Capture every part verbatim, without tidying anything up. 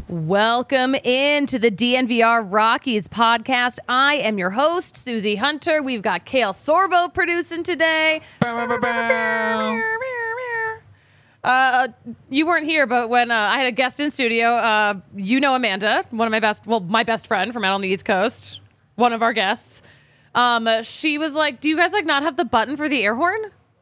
Welcome into the D N V R Rockies podcast. I am your host, Susie Hunter. We've got Kale Sorbo producing today. Uh, you weren't here, but when uh, I had a guest in studio, uh, you know Amanda, one of my best, well, my best friend from out on the East Coast, one of our guests. Um, she was like, "Do you guys like not have the button for the air horn?"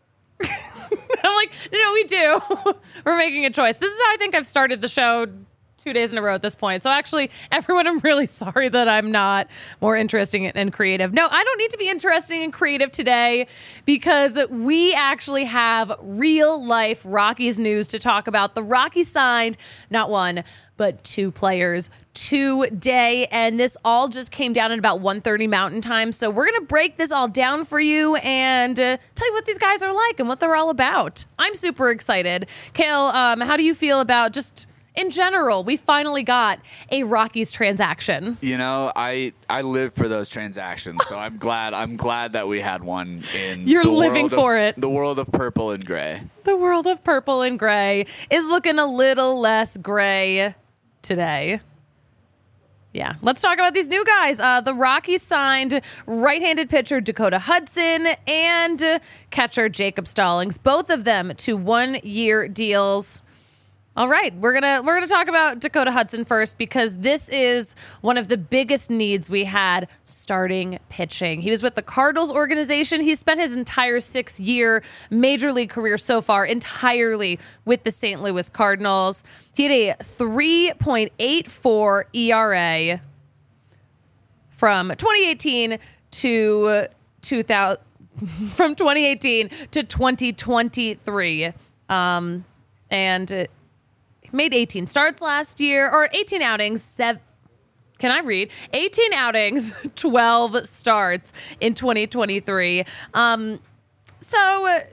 I'm like, "No, we do. We're making a choice." This is how I think I've started the show. Two days in a row at this point. So actually, everyone, I'm really sorry that I'm not more interesting and creative. No, I don't need to be interesting and creative today because we actually have real life Rockies news to talk about. The Rockies signed not one, but two players today. And this all just came down at about one thirty Mountain Time. So we're going to break this all down for you and uh, tell you what these guys are like and what they're all about. I'm super excited. Kale, um, how do you feel about just... in general, we finally got a Rockies transaction. You know, I I live for those transactions, so I'm glad I'm glad that we had one in You're the living world for of, it. The world of purple and gray. The world of purple and gray is looking a little less gray today. Yeah, let's talk about these new guys. Uh, the Rockies signed right-handed pitcher Dakota Hudson and uh, catcher Jacob Stallings, both of them to one-year deals. All right, we're gonna we're gonna talk about Dakota Hudson first because this is one of the biggest needs we had starting pitching. He was with the Cardinals organization. He spent his entire six-year major league career so far entirely with the Saint Louis Cardinals. He had a three point eight four E R A from twenty eighteen to two thousand from twenty eighteen to twenty twenty-three, um, and. Uh, Made eighteen starts last year, or eighteen outings, seven, can I read? eighteen outings, twelve starts in twenty twenty-three. Um, so, uh,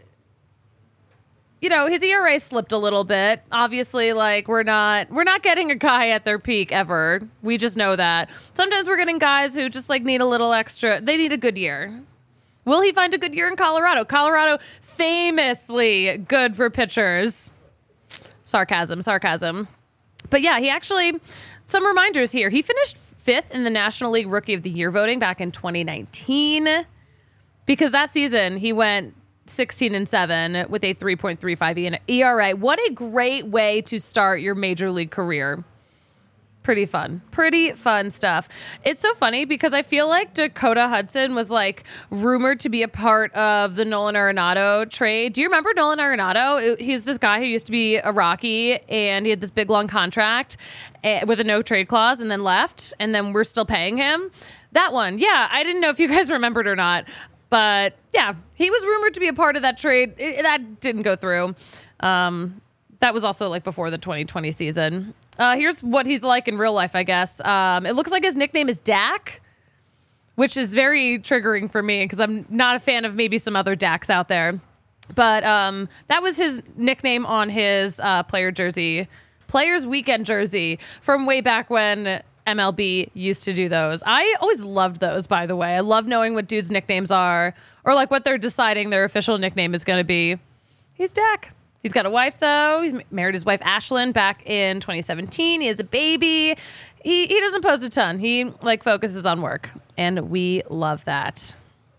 you know, his E R A slipped a little bit. Obviously, like, we're not, we're not getting a guy at their peak ever. We just know that. Sometimes we're getting guys who just, like, need a little extra. They need a good year. Will he find a good year in Colorado? Colorado, famously good for pitchers. Sarcasm, sarcasm. But yeah, he actually, some reminders here. He finished fifth in the National League Rookie of the Year voting back in twenty nineteen because that season he went sixteen and seven with a three point three five E R A. What a great way to start your major league career. Pretty fun. Pretty fun stuff. It's so funny because I feel like Dakota Hudson was like rumored to be a part of the Nolan Arenado trade. Do you remember Nolan Arenado? He's this guy who used to be a Rocky and he had this big long contract with a no trade clause and then left and then we're still paying him. That one. Yeah. I didn't know if you guys remembered or not, but yeah, he was rumored to be a part of that trade. It, that didn't go through. Um, that was also like before the twenty twenty season. Uh, here's what he's like in real life, I guess. Um, it looks like his nickname is Dak, which is very triggering for me because I'm not a fan of maybe some other Daks out there. But um, that was his nickname on his uh, player jersey, Players Weekend jersey from way back when M L B used to do those. I always loved those, by the way. I love knowing what dudes' nicknames are or like what they're deciding their official nickname is going to be. He's Dak. He's got a wife, though. He's married his wife, Ashlyn, back in twenty seventeen. He has a baby. He he doesn't post a ton. He, like, focuses on work, and we love that.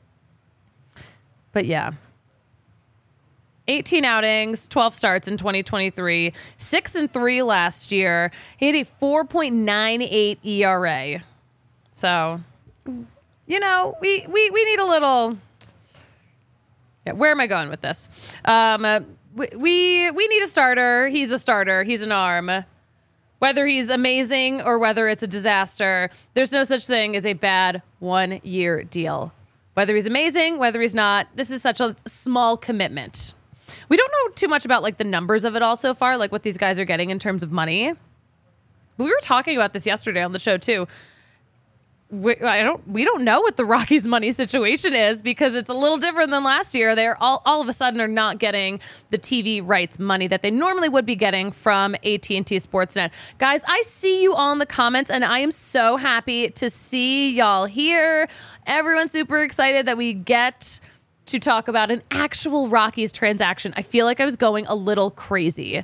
But, yeah. eighteen outings, twelve starts in twenty twenty-three, six and three last year. He had a four point nine eight E R A. So, you know, we, we, we need a little... Yeah, where am I going with this? Um... Uh, We we need a starter. He's a starter. He's an arm. Whether he's amazing or whether it's a disaster, there's no such thing as a bad one-year deal. Whether he's amazing, whether he's not, this is such a small commitment. We don't know too much about like the numbers of it all so far, like what these guys are getting in terms of money. But we were talking about this yesterday on the show too. We, I don't. We don't know what the Rockies' money situation is because it's a little different than last year. They're all, all of a sudden are not getting the T V rights money that they normally would be getting from A T and T Sportsnet. Guys, I see you all in the comments, and I am so happy to see y'all here. Everyone's super excited that we get to talk about an actual Rockies transaction. I feel like I was going a little crazy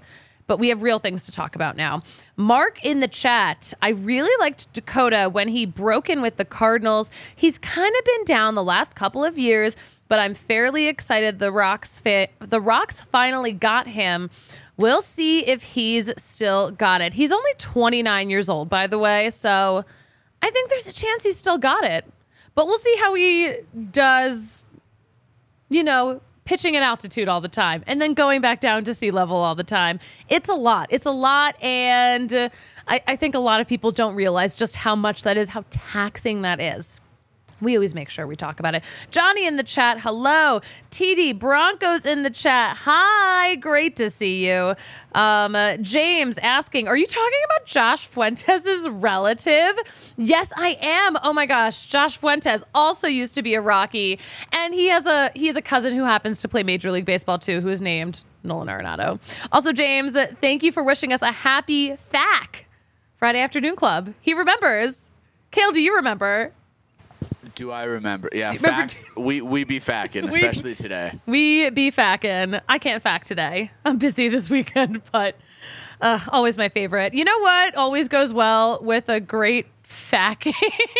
but we have real things to talk about now. Mark in the chat, I really liked Dakota when he broke in with the Cardinals. He's kind of been down the last couple of years, but I'm fairly excited the Rocks fa- the Rocks finally got him. We'll see if he's still got it. He's only twenty-nine years old, by the way, so I think there's a chance he's still got it. But we'll see how he does, you know, pitching at altitude all the time and then going back down to sea level all the time. It's a lot. It's a lot. And uh, I, I think a lot of people don't realize just how much that is, how taxing that is. We always make sure we talk about it. Johnny in the chat, hello. T D Broncos in the chat, hi. Great to see you. Um, uh, James asking, are you talking about Josh Fuentes' relative? Yes, I am. Oh my gosh, Josh Fuentes also used to be a Rocky, and he has a he has a cousin who happens to play Major League Baseball too, who is named Nolan Arenado. Also, James, thank you for wishing us a happy F A Q Friday Afternoon Club. He remembers. Kale, do you remember? Do I remember? Yeah, remember facts. T- we we be facking, especially today. We be facking. I can't fact today. I'm busy this weekend, but uh, always my favorite. You know what? Always goes well with a great facking.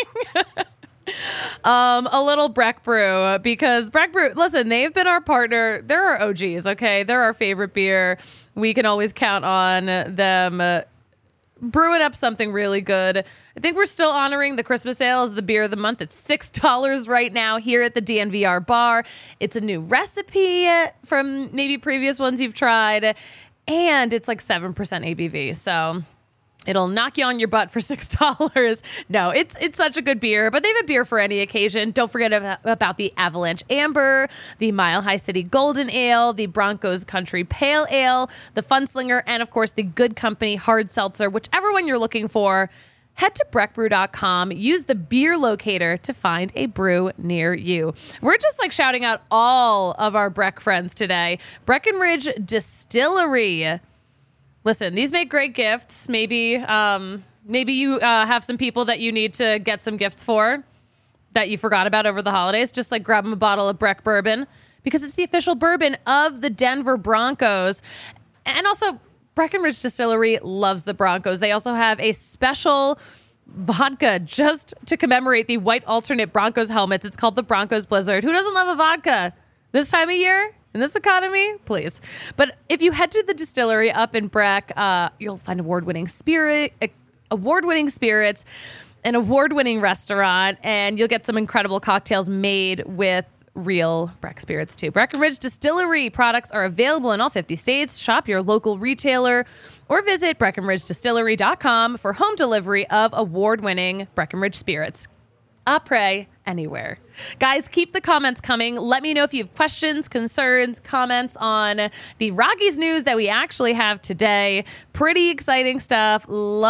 um, a little Breck Brew, because Breck Brew, listen, they've been our partner. They're our O Gs, okay? They're our favorite beer. We can always count on them uh, brewing up something really good. I think we're still honoring the Christmas ale as the beer of the month. It's six dollars right now here at the D N V R bar. It's a new recipe from maybe previous ones you've tried, and it's like seven percent A B V. So it'll knock you on your butt for six dollars. No, it's it's such a good beer, but they have a beer for any occasion. Don't forget about, about the Avalanche Amber, the Mile High City Golden Ale, the Broncos Country Pale Ale, the Funslinger, and of course the Good Company Hard Seltzer, whichever one you're looking for. Head to breck brew dot com, use the beer locator to find a brew near you. We're just like shouting out all of our Breck friends today. Breckenridge Distillery. Listen, these make great gifts. Maybe um, maybe you uh, have some people that you need to get some gifts for that you forgot about over the holidays. Just like grab them a bottle of Breck bourbon, because it's the official bourbon of the Denver Broncos. And also, Breckenridge Distillery loves the Broncos. They also have a special vodka just to commemorate the white alternate Broncos helmets. It's called the Broncos Blizzard. Who doesn't love a vodka this time of year? In this economy, please. But if you head to the distillery up in Breck, uh, you'll find award-winning spirit, uh, award-winning spirits, an award-winning restaurant, and you'll get some incredible cocktails made with real Breck spirits too. Breckenridge Distillery products are available in all fifty states. Shop your local retailer or visit breckenridge distillery dot com for home delivery of award-winning Breckenridge spirits. Après anywhere. Guys, keep the comments coming. Let me know if you have questions, concerns, comments on the Rockies news that we actually have today. Pretty exciting stuff.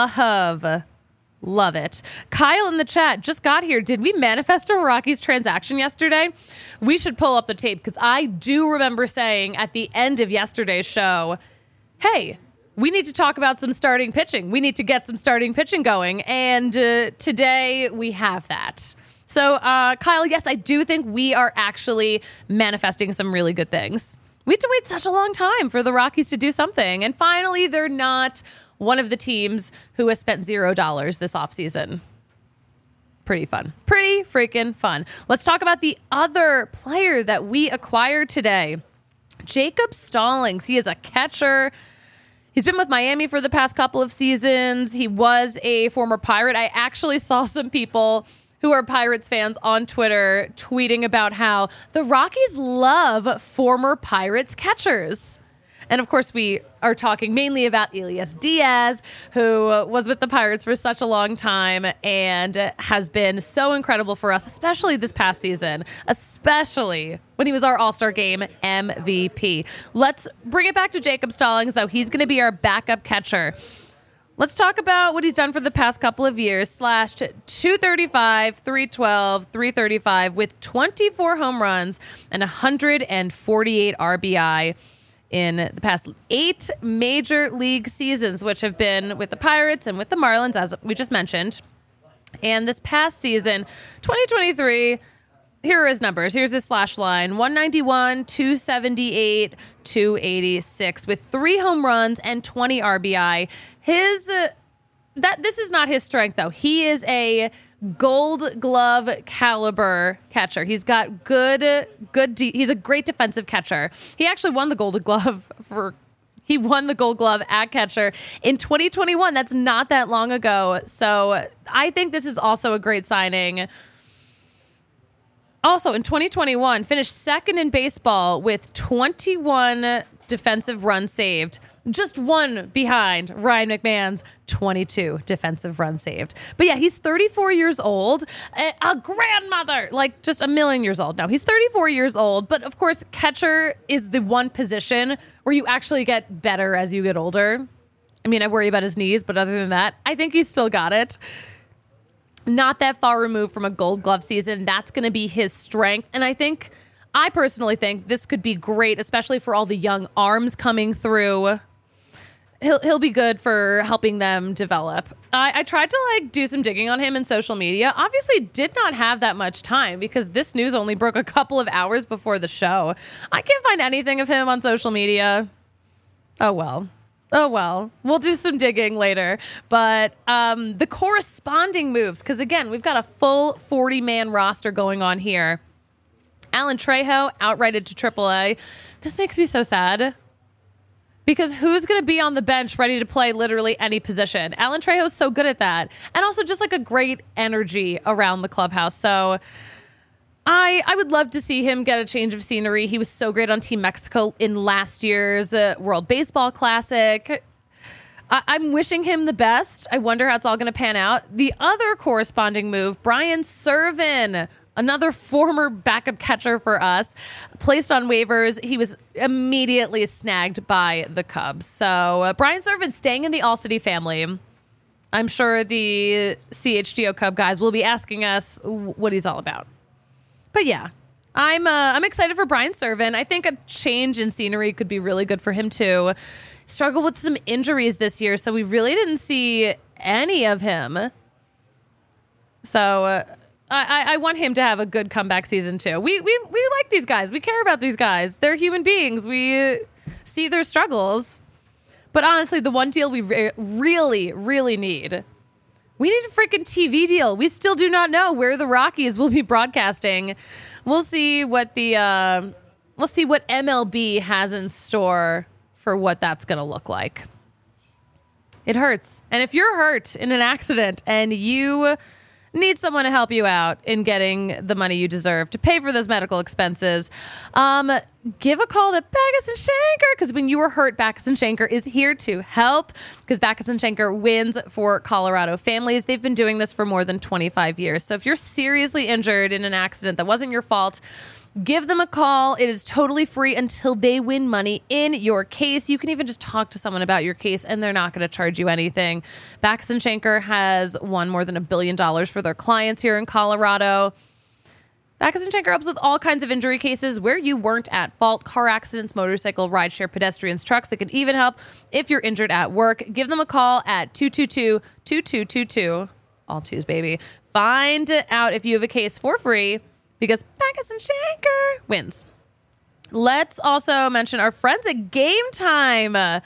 Love, love it. Kyle in the chat just got here. Did we manifest a Rockies transaction yesterday? We should pull up the tape, because I do remember saying at the end of yesterday's show, hey, we need to talk about some starting pitching. We need to get some starting pitching going. And uh, today we have that. So, uh, Kyle, yes, I do think we are actually manifesting some really good things. We had to wait such a long time for the Rockies to do something. And finally, they're not one of the teams who has spent zero dollars this offseason. Pretty fun. Pretty freaking fun. Let's talk about the other player that we acquired today. Jacob Stallings. He is a catcher. He's been with Miami for the past couple of seasons. He was a former Pirate. I actually saw some people who are Pirates fans on Twitter tweeting about how the Rockies love former Pirates catchers. And of course, we are talking mainly about Elias Diaz, who was with the Pirates for such a long time and has been so incredible for us, especially this past season, especially when he was our All-Star Game M V P. Let's bring it back to Jacob Stallings, though. He's going to be our backup catcher. Let's talk about what he's done for the past couple of years. Slashed two thirty-five, three twelve, three thirty-five with twenty-four home runs and one hundred forty-eight R B I in the past eight major league seasons, which have been with the Pirates and with the Marlins, as we just mentioned. And this past season, twenty twenty-three, here are his numbers. Here's his slash line: one ninety-one, two seventy-eight, two eighty-six with three home runs and twenty R B I. His uh, that this is not his strength though. He is a Gold Glove caliber catcher. He's got good, good. De- he's a great defensive catcher. He actually won the Gold Glove for. He won the Gold Glove at catcher in twenty twenty-one. That's not that long ago. So I think this is also a great signing. Also in twenty twenty-one, finished second in baseball with twenty-one defensive runs saved. Just one behind Ryan McMahon's twenty-two defensive runs saved. But yeah, he's thirty-four years old, a, a grandmother, like just a million years old. No, he's thirty-four years old. But of course, catcher is the one position where you actually get better as you get older. I mean, I worry about his knees, but other than that, I think he's still got it. Not that far removed from a Gold Glove season. That's going to be his strength. And I think, I personally think this could be great, especially for all the young arms coming through. He'll he'll be good for helping them develop. I, I tried to like do some digging on him in social media. Obviously did not have that much time because this news only broke a couple of hours before the show. I can't find anything of him on social media. Oh well. Oh well. We'll do some digging later. But um, the corresponding moves, because again, we've got a full forty-man roster going on here. Alan Trejo outrighted to triple A. This makes me so sad. Because who's going to be on the bench ready to play literally any position? Alan Trejo's so good at that. And also just like a great energy around the clubhouse. So I I would love to see him get a change of scenery. He was so great on Team Mexico in last year's uh, World Baseball Classic. I- I'm wishing him the best. I wonder how it's all going to pan out. The other corresponding move, Brian Serven, another former backup catcher for us, placed on waivers. He was immediately snagged by the Cubs. So uh, Brian Serven staying in the All-City family. I'm sure the C H G O Cub guys will be asking us what he's all about. But yeah, I'm uh, I'm excited for Brian Serven. I think a change in scenery could be really good for him too. Struggled with some injuries this year, so we really didn't see any of him. So uh, I, I want him to have a good comeback season too. We we we like these guys. We care about these guys. They're human beings. We see their struggles. But honestly, the one deal we re- really, really need, we need a freaking T V deal. We still do not know where the Rockies will be broadcasting. We'll see what the uh, we'll see what M L B has in store for what that's going to look like. It hurts. And if you're hurt in an accident and you need someone to help you out in getting the money you deserve to pay for those medical expenses, um, give a call to Backus and Schenker, because when you are hurt, Backus and Schenker is here to help, because Backus and Schenker wins for Colorado families. They've been doing this for more than twenty-five years. So if you're seriously injured in an accident that wasn't your fault, give them a call. It is totally free until they win money in your case. You can even just talk to someone about your case and they're not going to charge you anything. Backus and Schenker has won more than a billion dollars for their clients here in Colorado. Backus and Schenker helps with all kinds of injury cases where you weren't at fault: car accidents, motorcycle, rideshare, pedestrians, trucks. They could even help if you're injured at work. Give them a call at two two two, two two two two. All twos, baby. Find out if you have a case for free, because Backus and Schenker wins. Let's also mention our friends at Game Time. I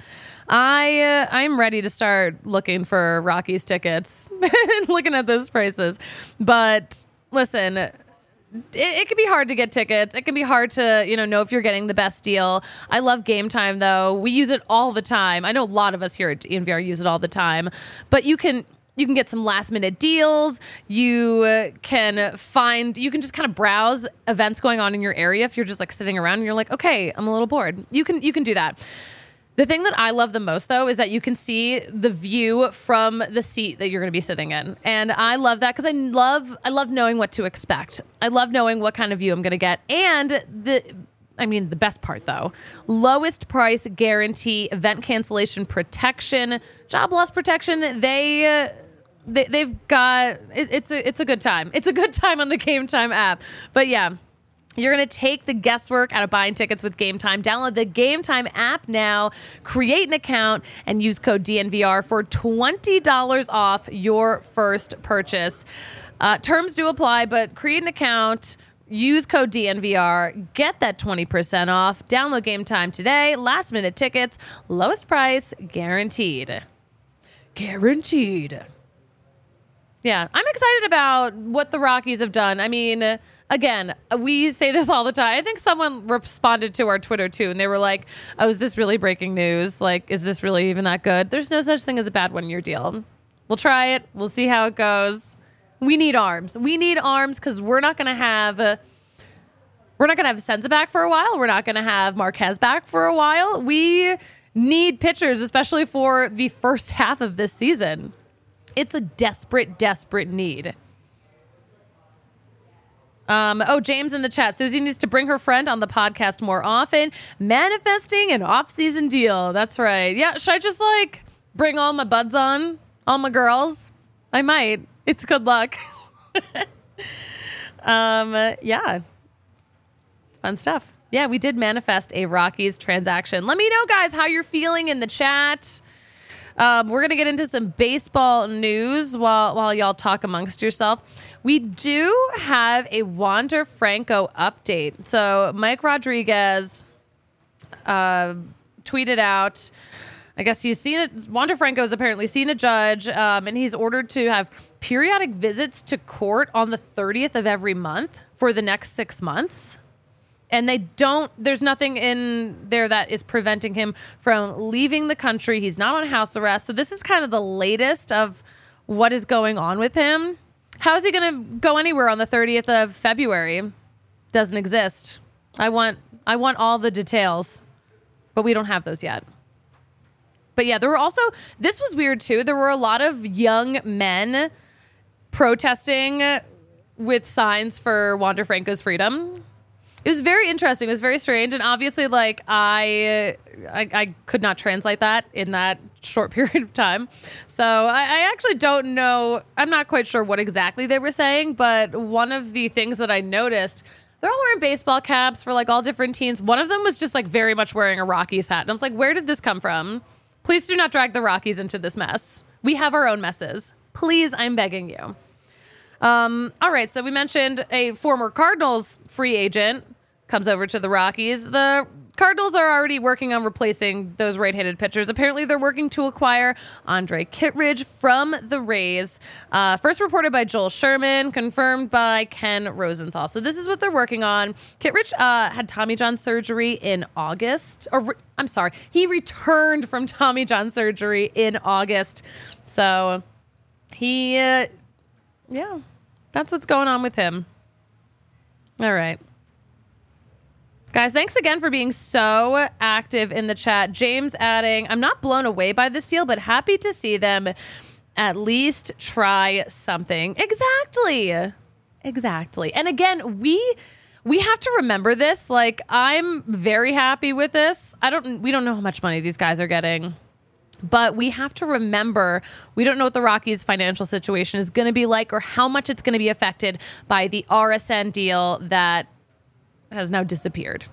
uh, I'm ready to start looking for Rockies tickets and looking at those prices. But listen, it, it can be hard to get tickets. It can be hard to, you know, know if you're getting the best deal. I love Game Time, though. We use it all the time. I know a lot of us here at D N V R use it all the time. But you can... You can get some last minute deals. You uh, can find, you can just kind of browse events going on in your area. If you're just like sitting around and you're like, okay, I'm a little bored. You can, you can do that. The thing that I love the most, though, is that you can see the view from the seat that you're going to be sitting in. And I love that because I love, I love knowing what to expect. I love knowing what kind of view I'm going to get. And the, I mean, the best part, though, lowest price guarantee, event cancellation protection, job loss protection. They, uh, They, they've got it, it's a it's a good time. It's a good time on the Game Time app. But yeah, you're gonna take the guesswork out of buying tickets with Game Time. Download the Game Time app now, create an account, and use code D N V R for twenty dollars off your first purchase. Uh, terms do apply, but create an account, Use code D N V R. Get that twenty percent off. Download Game Time today. Last minute tickets. Lowest price guaranteed. Guaranteed. Yeah, I'm excited about what the Rockies have done. I mean, again, we say this all the time. I think someone responded to our Twitter too, and they were like, oh, is this really breaking news? Like, is this really even that good? There's no such thing as a bad one-year deal. We'll try it. We'll see how it goes. We need arms. We need arms because we're not going to have... Uh, we're not going to have Senza back for a while. We're not going to have Marquez back for a while. We need pitchers, especially for the first half of this season. It's a desperate, desperate need. Um, oh, James in the chat. Susie needs to bring her friend on the podcast more often. Manifesting an off-season deal. That's right. Yeah, should I just like bring all my buds on? All my girls? I might. It's good luck. um, yeah. Fun stuff. Yeah, we did manifest a Rockies transaction. Let me know, guys, how you're feeling in the chat. Um, we're going to get into some baseball news while while y'all talk amongst yourself. We do have a Wander Franco update. So Mike Rodriguez uh, tweeted out, I guess he's seen it. Wander Franco's apparently seen a judge, um, and he's ordered to have periodic visits to court on the thirtieth of every month for the next six months. And they don't, there's nothing in there that is preventing him from leaving the country. He's not on house arrest. So this is kind of the latest of what is going on with him. How is he going to go anywhere on the thirtieth of February? Doesn't exist. I want, I want all the details, but we don't have those yet. But yeah, there were also, this was weird too. There were a lot of young men protesting with signs for Wander Franco's freedom. It was very interesting. It was very strange. And obviously, like, I, I I could not translate that in that short period of time. So I, I actually don't know. I'm not quite sure what exactly they were saying. But one of the things that I noticed, they're all wearing baseball caps for, like, all different teams. One of them was just, like, very much wearing a Rockies hat. And I was like, where did this come from? Please do not drag the Rockies into this mess. We have our own messes. Please, I'm begging you. Um, all right, so we mentioned a former Cardinals free agent comes over to the Rockies. The Cardinals are already working on replacing those right-handed pitchers. Apparently, they're working to acquire Andre Kittredge from the Rays. Uh, first reported by Joel Sherman, confirmed by Ken Rosenthal. So this is what they're working on. Kittredge uh, had Tommy John surgery in August. Or re- I'm sorry, he returned from Tommy John surgery in August. So he, uh, yeah, that's what's going on with him. All right. Guys, thanks again for being so active in the chat. James adding, I'm not blown away by this deal, but happy to see them at least try something. Exactly. Exactly. And again, we we have to remember this. Like, I'm very happy with this. I don't we don't know how much money these guys are getting. But we have to remember, we don't know what the Rockies' financial situation is going to be like or how much it's going to be affected by the R S N deal that has now disappeared.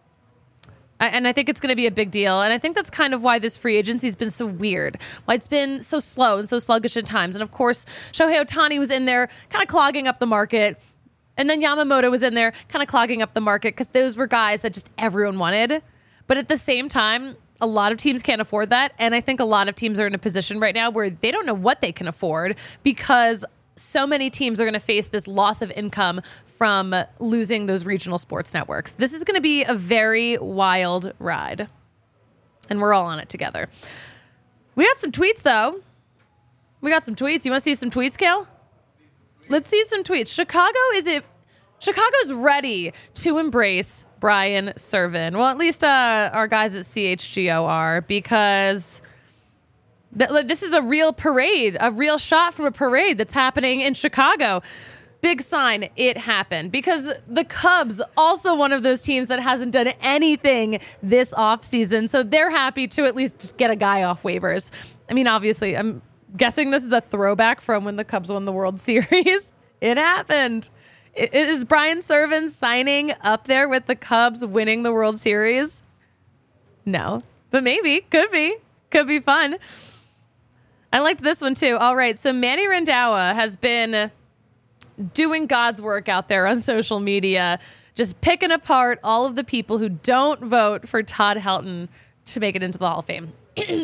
And I think it's going to be a big deal. And I think that's kind of why this free agency has been so weird, why it's been so slow and so sluggish at times. And of course, Shohei Ohtani was in there kind of clogging up the market. And then Yamamoto was in there kind of clogging up the market because those were guys that just everyone wanted. But at the same time, a lot of teams can't afford that. And I think a lot of teams are in a position right now where they don't know what they can afford because so many teams are going to face this loss of income from losing those regional sports networks. This is going to be a very wild ride. And we're all on it together. We got some tweets, though. We got some tweets. You want to see some tweets, Kale? Let's see some tweets. Chicago is it? Chicago's ready to embrace Brian Serven. Well, at least uh, our guys at C H G O are, because th- this is a real parade, a real shot from a parade that's happening in Chicago. Big sign, it happened, because the Cubs, also one of those teams that hasn't done anything this offseason, so they're happy to at least just get a guy off waivers. I mean, obviously, I'm guessing this is a throwback from when the Cubs won the World Series. It happened. It is Brian Serven signing up there with the Cubs winning the World Series? No, but maybe. Could be. Could be fun. I liked this one, too. All right, so Manny Randhawa has been doing God's work out there on social media, just picking apart all of the people who don't vote for Todd Helton to make it into the Hall of Fame.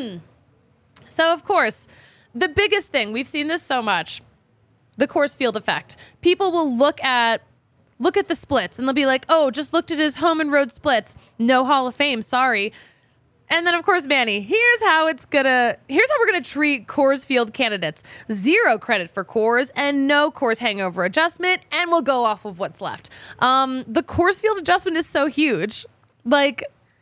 So, of course, the biggest thing, we've seen this so much, the Coors Field effect. People will look at look at the splits and they'll be like, oh, just looked at his home and road splits. No Hall of Fame, sorry. And then, of course, Manny, here's how it's gonna, here's how we're gonna treat Coors Field candidates. Zero credit for Coors and no Coors hangover adjustment, and we'll go off of what's left. Um, the Coors Field adjustment is so huge. Like,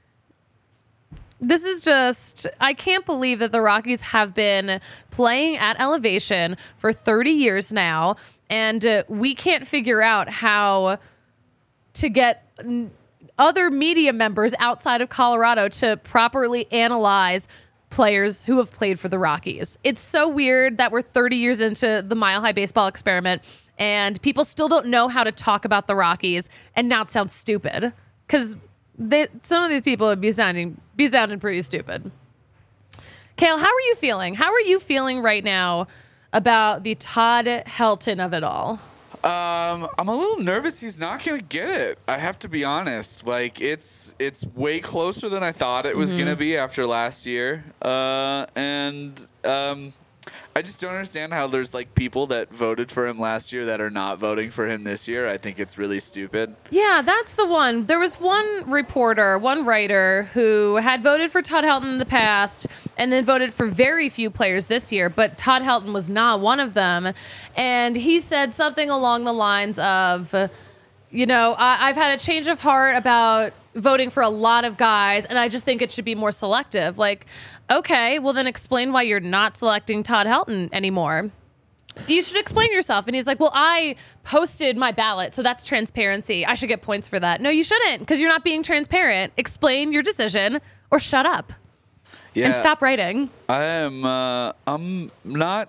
this is just, I can't believe that the Rockies have been playing at elevation for thirty years now, and uh, we can't figure out how to get n- other media members outside of Colorado to properly analyze players who have played for the Rockies. It's so weird that we're thirty years into the Mile High Baseball experiment and people still don't know how to talk about the Rockies and not sound stupid, because some of these people would be sounding be sounding pretty stupid. Kale, how are you feeling? How are you feeling right now about the Todd Helton of it all? Um, I'm a little nervous he's not going to get it. I have to be honest. Like, it's it's way closer than I thought it was mm-hmm. going to be after last year. Uh, and um, I just don't understand how there's, like, people that voted for him last year that are not voting for him this year. I think it's really stupid. Yeah, that's the one. There was one reporter, one writer who had voted for Todd Helton in the past and then voted for very few players this year, but Todd Helton was not one of them. And he said something along the lines of, you know, I- I've had a change of heart about voting for a lot of guys, and I just think it should be more selective. Like, okay, well then explain why you're not selecting Todd Helton anymore. You should explain yourself. And he's like, well, I posted my ballot, so that's transparency. I should get points for that. No, you shouldn't, because you're not being transparent. Explain your decision or shut up. Yeah, and stop writing. I am, uh, I'm not,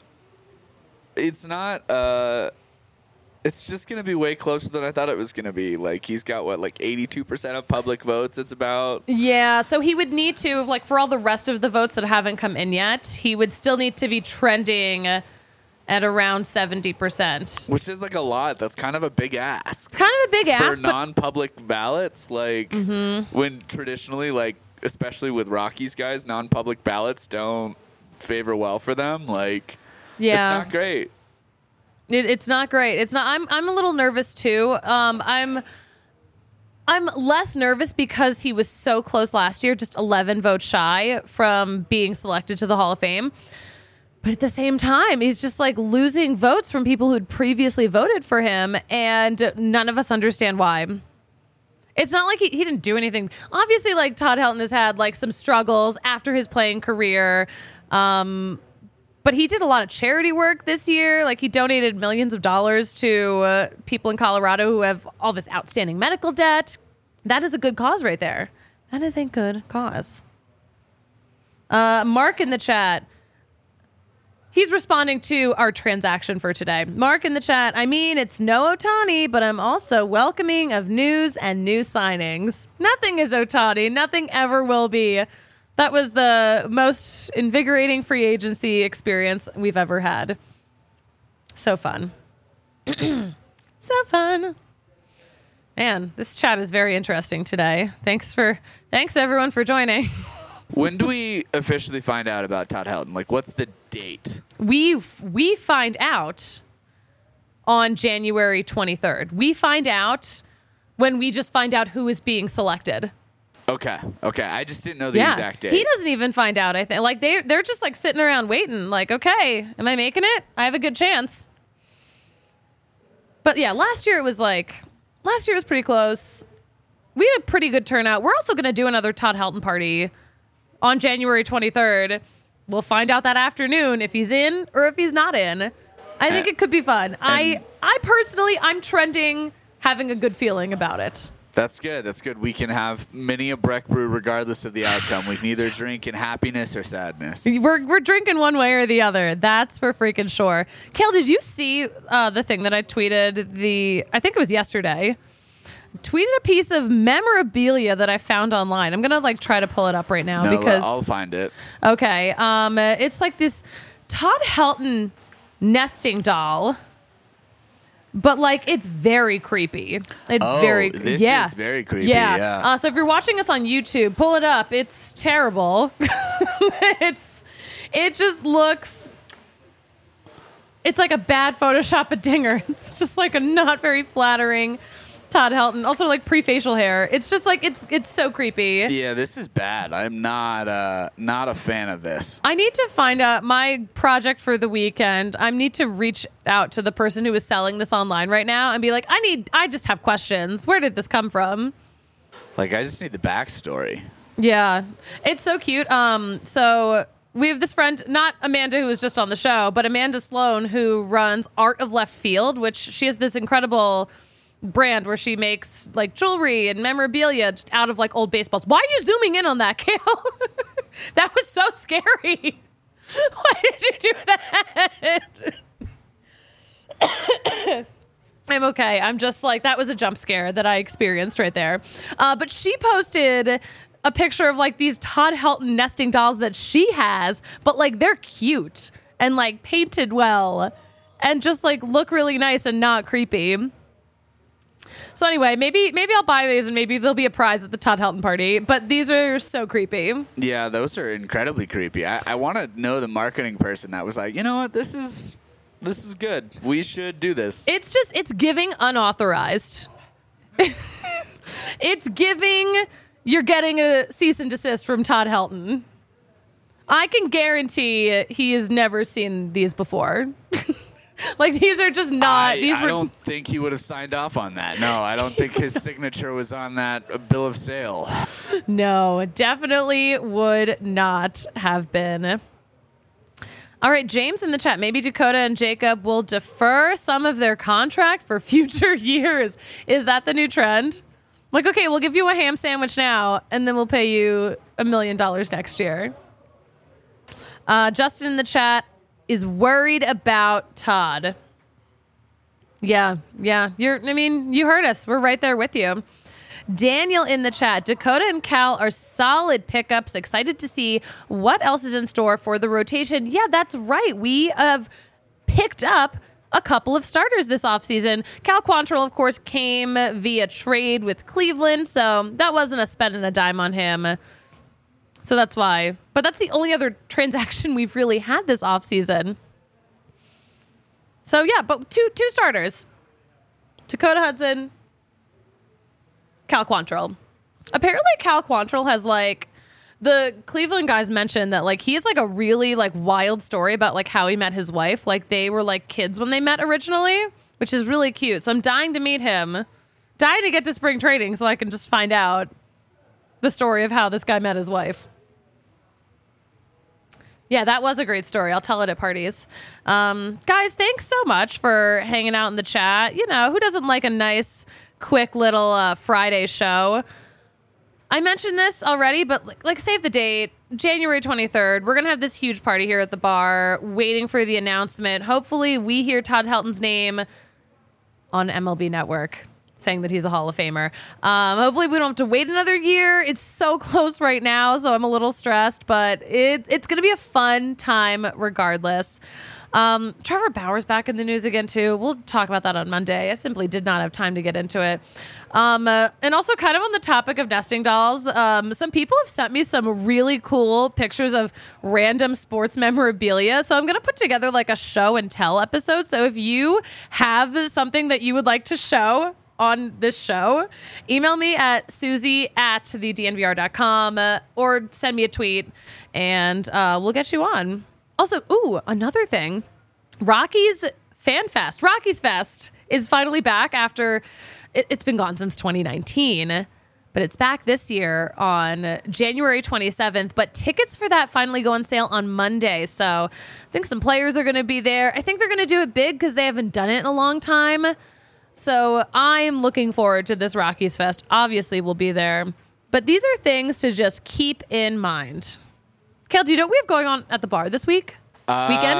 it's not, uh, it's just going to be way closer than I thought it was going to be. Like, he's got, what, like eighty-two percent of public votes it's about? Yeah, so he would need to, like, for all the rest of the votes that haven't come in yet, he would still need to be trending at around seventy percent. Which is, like, a lot. That's kind of a big ask. It's kind of a big ask. For non-public ballots, like, mm-hmm. when traditionally, like, especially with Rockies guys, non-public ballots don't favor well for them. Like, yeah. It's not great. It, it's not great. It's not. I'm. I'm a little nervous too. Um. I'm. I'm less nervous because he was so close last year, just eleven votes shy from being selected to the Hall of Fame. But at the same time, he's just like losing votes from people who'd previously voted for him, and none of us understand why. It's not like he, he didn't do anything. Obviously, like, Todd Helton has had like some struggles after his playing career. Um. But he did a lot of charity work this year. Like, he donated millions of dollars to uh, people in Colorado who have all this outstanding medical debt. That is a good cause right there. That is a good cause. Uh, Mark in the chat, he's responding to our transaction for today. Mark in the chat, I mean, it's no Ohtani, but I'm also welcoming of news and new signings. Nothing is Ohtani. Nothing ever will be. That was the most invigorating free agency experience we've ever had. So fun. So fun. Man, this chat is very interesting today. Thanks for thanks everyone for joining. When do we officially find out about Todd Helton? Like, what's the date? We we find out on January twenty-third. We find out when we just find out who is being selected. Okay. Okay. I just didn't know the yeah. exact date. He doesn't even find out. I think like they they're just like sitting around waiting. Like, okay, am I making it? I have a good chance. But yeah, last year it was like last year was pretty close. We had a pretty good turnout. We're also going to do another Todd Helton party on January twenty-third. We'll find out that afternoon if he's in or if he's not in. I think uh, it could be fun. I I personally I'm trending having a good feeling about it. That's good. That's good. We can have many a Breck brew regardless of the outcome. We can either drink in happiness or sadness. We're we're drinking one way or the other. That's for freaking sure. Kale, did you see uh, the thing that I tweeted? The I think it was yesterday. Tweeted a piece of memorabilia that I found online. I'm gonna like try to pull it up right now no, because I'll find it. Okay. Um, it's like this Todd Helton nesting doll But like it's very creepy. It's Oh, very this yeah. is very creepy, Yeah. yeah. Uh, so if you're watching us on YouTube, pull it up. It's terrible. it's it just looks. It's like a bad Photoshop of Dinger. It's just like a not very flattering Todd Helton. Also like pre-facial hair. It's just like it's it's so creepy. Yeah, this is bad. I'm not uh, not a fan of this. I need to find out my project for the weekend. I need to reach out to the person who is selling this online right now and be like, I need, I just have questions. Where did this come from? Like, I just need the backstory. Yeah, it's so cute. Um, so we have this friend, not Amanda, who was just on the show, but Amanda Sloan, who runs Art of Left Field, which she has this incredible brand where she makes like jewelry and memorabilia just out of like old baseballs. Why are you zooming in on that, Kale? That was so scary. Why did you do that? I'm okay. I'm just like, that was a jump scare that I experienced right there. Uh, but she posted a picture of like these Todd Helton nesting dolls that she has, but like they're cute and like painted well and just like look really nice and not creepy. So anyway, maybe maybe I'll buy these and maybe there'll be a prize at the Todd Helton party. But these are so creepy. Yeah, those are incredibly creepy. I, I want to know the marketing person that was like, you know what, this is this is good. We should do this. It's just it's giving unauthorized. It's giving you're getting a cease and desist from Todd Helton. I can guarantee he has never seen these before. Like, these are just not... I, these I were, don't think he would have signed off on that. No, I don't think his signature was on that uh, bill of sale. No, definitely would not have been. All right, James in the chat. Maybe Dakota and Jacob will defer some of their contract for future years. Is that the new trend? Like, okay, we'll give you a ham sandwich now, and then we'll pay you a million dollars next year. Uh, Justin in the chat is worried about Todd. Yeah, yeah. You're. I mean, you heard us. We're right there with you. Daniel in the chat. Dakota and Cal are solid pickups. Excited to see what else is in store for the rotation. Yeah, that's right. We have picked up a couple of starters this offseason. Cal Quantrill, of course, came via trade with Cleveland, so that wasn't a spending a dime on him. So that's why. But that's the only other transaction we've really had this offseason. So, yeah, but two two starters. Dakota Hudson, Cal Quantrill. Apparently, Cal Quantrill has, like, the Cleveland guys mentioned that, like, he has, like, a really, like, wild story about, like, how he met his wife. Like, they were, like, kids when they met originally, which is really cute. So I'm dying to meet him. Dying to get to spring training so I can just find out the story of how this guy met his wife. Yeah, that was a great story. I'll tell it at parties. Um, guys, thanks so much for hanging out in the chat. You know, who doesn't like a nice, quick little uh, Friday show? I mentioned this already, but like, like save the date. January twenty-third, we're going to have this huge party here at the bar, waiting for the announcement. Hopefully we hear Todd Helton's name on M L B Network, saying that he's a Hall of Famer. Um, hopefully we don't have to wait another year. It's so close right now, so I'm a little stressed, but it, it's going to be a fun time regardless. Um, Trevor Bauer's back in the news again, too. We'll talk about that on Monday. I simply did not have time to get into it. Um, uh, and also kind of on the topic of nesting dolls, um, some people have sent me some really cool pictures of random sports memorabilia. So I'm going to put together like a show and tell episode. So if you have something that you would like to show on this show, email me at Susie at the D N V R dot com uh, or send me a tweet and uh, we'll get you on. Also, ooh, another thing, Rockies Fan Fest, Rockies Fest is finally back after it, it's been gone since twenty nineteen, but it's back this year on January twenty-seventh. But tickets for that finally go on sale on Monday. So I think some players are going to be there. I think they're going to do it big because they haven't done it in a long time. So I'm looking forward to this Rockies Fest. Obviously, we'll be there. But these are things to just keep in mind. Kel, do you know what we have going on at the bar this week? Uh, Weekend?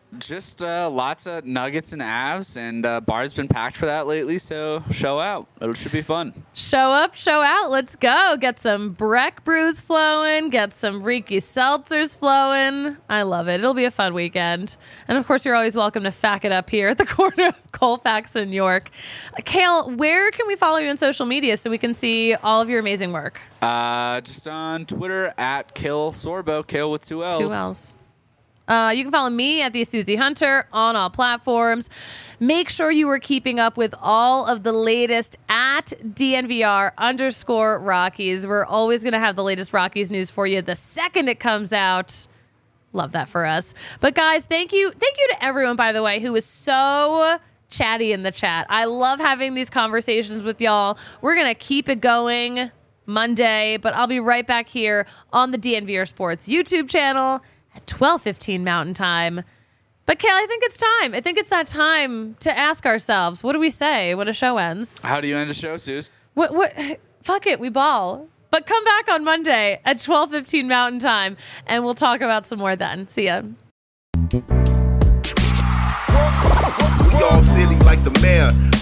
just uh, lots of Nuggets and Avs, and uh, bar's been packed for that lately, so show out. It should be fun. Show up, show out. Let's go. Get some Breck brews flowing. Get some Riki seltzers flowing. I love it. It'll be a fun weekend. And, of course, you're always welcome to Fack It Up here at the corner of Colfax and York. Uh, Kale, where can we follow you on social media so we can see all of your amazing work? Uh, just on Twitter at Kale Sorbo, Kale with two L's. Two L's. Uh, you can follow me at the Susie Hunter on all platforms. Make sure you are keeping up with all of the latest at D N V R underscore Rockies. We're always going to have the latest Rockies news for you the second it comes out. Love that for us. But guys, thank you. Thank you to everyone, by the way, who was so chatty in the chat. I love having these conversations with y'all. We're going to keep it going Monday, but I'll be right back here on the D N V R Sports YouTube channel at twelve fifteen Mountain Time. But Kale, I think it's time. I think it's that time to ask ourselves, what do we say when a show ends? How do you end a show, Suze? What? What? Fuck it, we ball. But come back on Monday at twelve fifteen Mountain Time, and we'll talk about some more then. See ya. We all silly like the mayor.